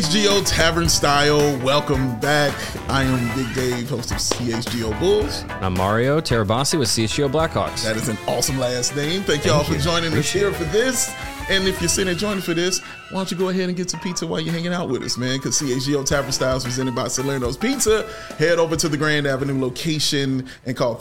CHGO Tavern Style, welcome back. I am Big Dave, host of CHGO Bulls. I'm Mario Terabasi with CHGO Blackhawks. That is an awesome last name. Thank y'all for joining us here for this. And if you're sitting and joining for this, why don't you go ahead and get some pizza while you're hanging out with us, man? Because CHGO Tavern Style is presented by Salerno's Pizza. Head over to the Grand Avenue location and call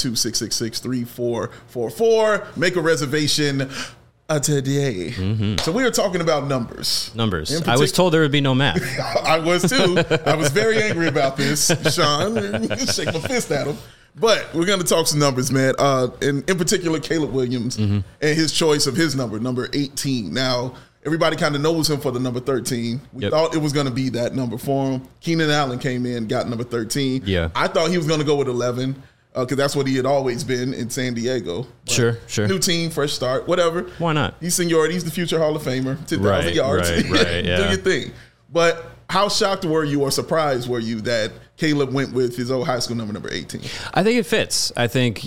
312-666-3444. Make a reservation today. So we were talking about numbers. I was told there would be no math. I was too. I was very angry about this, Sean. Shake my fist at him. But we're going to talk some numbers, man. In particular, Caleb Williams and his choice of his number 18. Now, everybody kind of knows him for the number 13. We thought it was going to be that number for him. Keenan Allen came in, got number 13. Yeah. I thought he was going to go with 11. Because that's what he had always been in San Diego. But Sure. New team, fresh start, whatever. Why not? He's seniority. He's the future Hall of Famer. 10,000 yards. Right, yeah. Do your thing. But how shocked were you or surprised were you that Caleb went with his old high school number 18? I think it fits. I think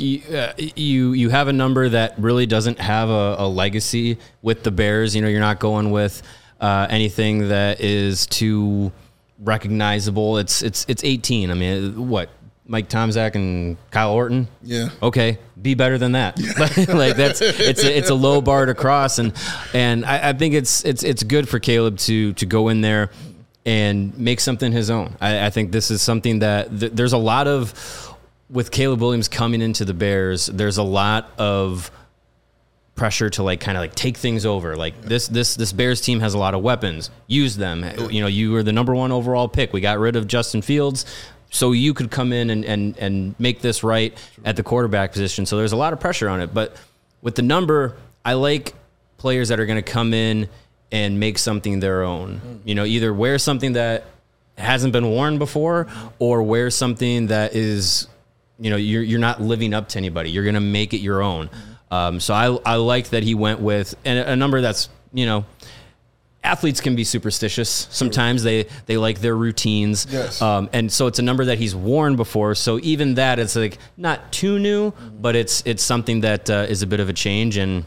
you have a number that really doesn't have a legacy with the Bears. You know, you're not going with anything that is too recognizable. It's 18. I mean, what? Mike Tomczak and Kyle Orton. Yeah. Okay. Be better than that. Like it's a low bar to cross. And I think it's good for Caleb to go in there and make something his own. I think this is something that there's a lot of, with Caleb Williams coming into the Bears, there's a lot of pressure to kind of take things over. This Bears team has a lot of weapons. Use them. You know, you were the number 1 overall pick. We got rid of Justin Fields, so you could come in and make this right at the quarterback position. So there's a lot of pressure on it. But with the number, I like players that are going to come in and make something their own. You know, either wear something that hasn't been worn before or wear something that is, you know, you're not living up to anybody. You're going to make it your own. So I like that he went with a number that's, you know, athletes can be superstitious. Sometimes they like their routines. Yes. And so it's a number that he's worn before. So even that, it's not too new, but it's something that is a bit of a change. And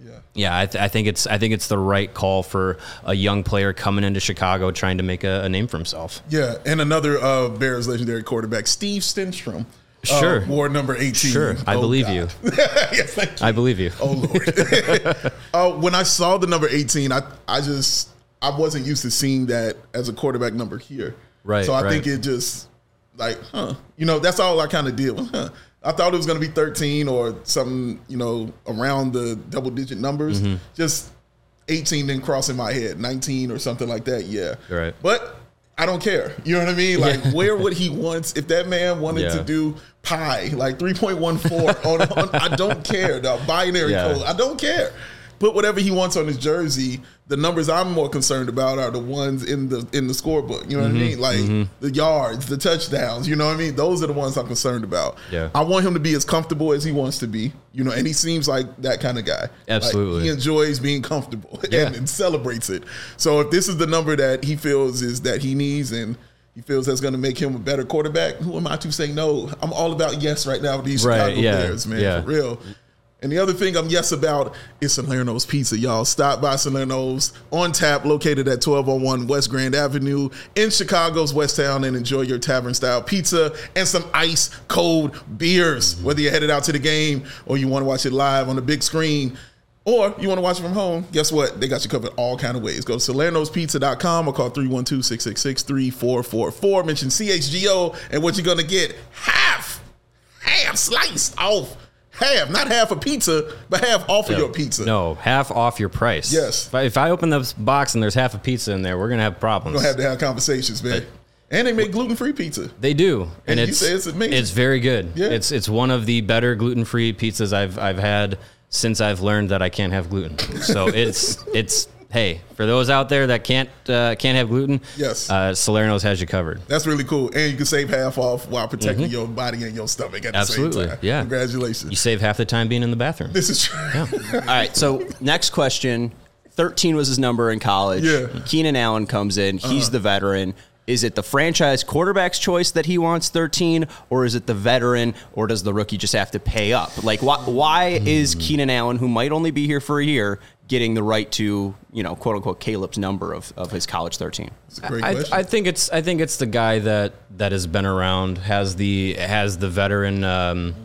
I think it's the right call for a young player coming into Chicago trying to make a name for himself. Yeah, and another Bears legendary quarterback, Steve Stenstrom. Sure. Wore number 18. Sure. I believe you. Yes, thank you. I believe you. Oh, Lord. When I saw the number 18, I wasn't used to seeing that as a quarterback number here. Right. So I think it just you know, that's all I kind of did. I thought it was going to be 13 or something, you know, around the double-digit numbers. Just 18 didn't cross in my head. 19 or something like that, yeah. Right. But I don't care. You know what I mean? Where would he want, if that man wanted to do pi, 3.14 on I don't care. The binary code, I don't care. Put whatever he wants on his jersey. The numbers I'm more concerned about are the ones in the scorebook. You know what I mean? The yards, the touchdowns. You know what I mean? Those are the ones I'm concerned about. Yeah. I want him to be as comfortable as he wants to be. You know, and he seems like that kind of guy. Absolutely. He enjoys being comfortable and celebrates it. So if this is the number that he feels is that he needs and he feels that's going to make him a better quarterback, who am I to say no? I'm all about yes right now with these Chicago Bears, man, for real. And the other thing I'm yes about is Salerno's Pizza, y'all. Stop by Salerno's on tap, located at 1201 West Grand Avenue in Chicago's West Town, and enjoy your tavern-style pizza and some ice-cold beers. Whether you're headed out to the game or you want to watch it live on the big screen or you want to watch it from home, guess what? They got you covered all kind of ways. Go to salernospizza.com or call 312-666-3444. Mention CHGO, and what you're going to get, half sliced off. Not half a pizza, but half off of your pizza. No, half off your price. Yes. If I open this box and there's half a pizza in there, we're going to have problems. We're going to have conversations, man. And they make gluten-free pizza. They do. And you say it's amazing. It's very good. Yeah. It's one of the better gluten-free pizzas I've had since I've learned that I can't have gluten. So it's hey, for those out there that can't have gluten, Salerno's has you covered. That's really cool. And you can save half off while protecting your body and your stomach at the same time. Yeah. Congratulations. You save half the time being in the bathroom. This is true. Yeah. All right, so next question. 13 was his number in college. Yeah. Keenan Allen comes in. He's the veteran. Is it the franchise quarterback's choice that he wants 13, or is it the veteran, or does the rookie just have to pay up? Why is Keenan Allen, who might only be here for a year, getting the right to, quote unquote, Caleb's number of his college 13? That's a great question. I think it's the guy that has been around, has the veteran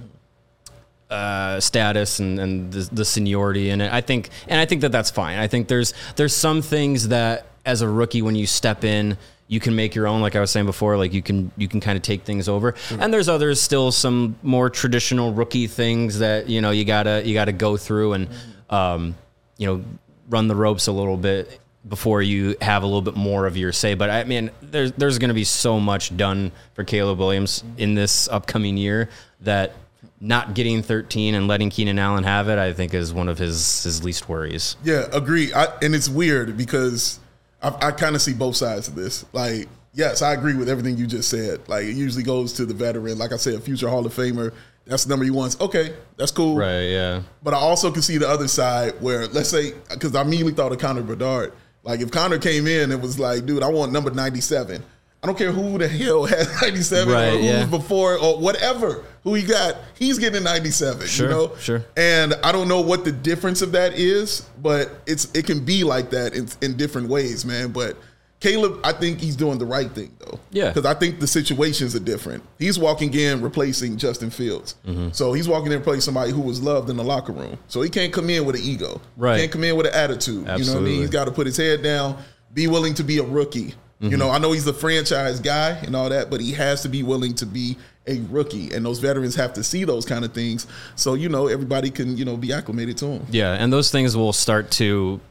status and the seniority in it. I think that's fine. I think there's some things that as a rookie, when you step in, you can make your own, like I was saying before, like you can kind of take things over. Mm-hmm. And there's still some more traditional rookie things that, you gotta go through and, run the ropes a little bit before you have a little bit more of your say. But I mean, there's going to be so much done for Caleb Williams in this upcoming year that not getting 13 and letting Keenan Allen have it, I think, is one of his least worries. Yeah, agree. And it's weird because I kind of see both sides of this. Like, yes, I agree with everything you just said. Like, it usually goes to the veteran. Like I said, a future Hall of Famer. That's the number he wants. Okay, that's cool. Right, yeah. But I also can see the other side where, let's say, because I immediately thought of Connor Bedard. Like, if Connor came in and was like, dude, I want number 97. I don't care who the hell has 97 right, or who's before or whatever. Who he got, he's getting 97, sure, Sure. And I don't know what the difference of that is, but it can be like that in different ways, man. But Caleb, I think he's doing the right thing, though. Yeah. Because I think the situations are different. He's walking in replacing Justin Fields. Mm-hmm. So he's walking in replacing somebody who was loved in the locker room. So he can't come in with an ego. Right. He can't come in with an attitude. Absolutely. You know what I mean? He's got to put his head down, be willing to be a rookie. Mm-hmm. I know he's a franchise guy and all that, but he has to be willing to be a rookie. And those veterans have to see those kind of things so, everybody can, be acclimated to him. Yeah, and those things will start to,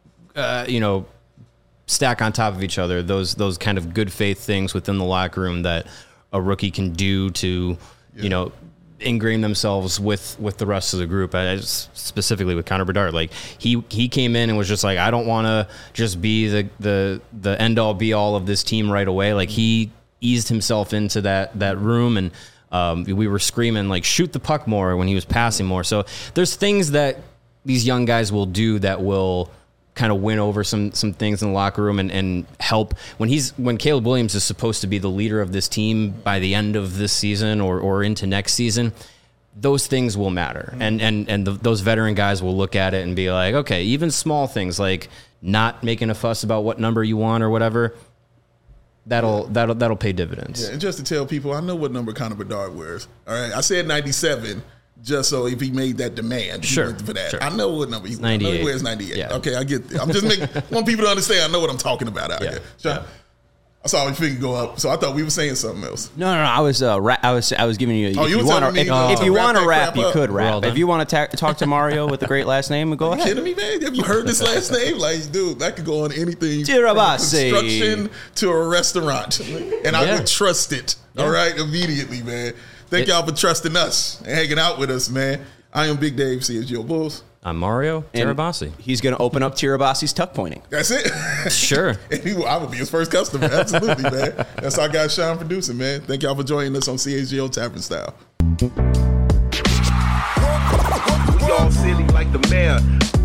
stack on top of each other. Those kind of good faith things within the locker room that a rookie can do to, ingrain themselves with the rest of the group. Specifically with Connor Bedard, like he came in and was just like, I don't want to just be the end all be all of this team right away. Like he eased himself into that room and we were screaming like shoot the puck more when he was passing more. So there's things that these young guys will do that will kind of win over some things in the locker room and help when Caleb Williams is supposed to be the leader of this team by the end of this season or into next season. Those things will matter. And those veteran guys will look at it and be like, okay, even small things like not making a fuss about what number you want or whatever, that'll pay dividends. Yeah, and just to tell people, I know what number Connor Bedard wears. All right. I said 97. Just so if he made that demand for that. Sure. I know what number he wears. 98. I know he wears 98. Yeah. Okay, I get it. I'm just want people to understand I know what I'm talking about out here. Sure. I saw your finger go up, so I thought we were saying something else. No. I was giving you. If you want to rap, you could rap. Well, if you want to talk to Mario with a great last name, go ahead. You kidding me, man? Have you heard this last name? Like, dude, that could go on anything. Tirabassi. From construction to a restaurant, and I would trust it. All right, immediately, man. Thank y'all for trusting us and hanging out with us, man. I am Big Dave, CSGO Bulls. I'm Mario Tirabassi. He's going to open up Tirabassi's tuck pointing. That's it. Sure. I would be his first customer. Absolutely, man. That's our guy, Sean, producing, man. Thank y'all for joining us on CSGO Tavern Style. We all silly like the mayor.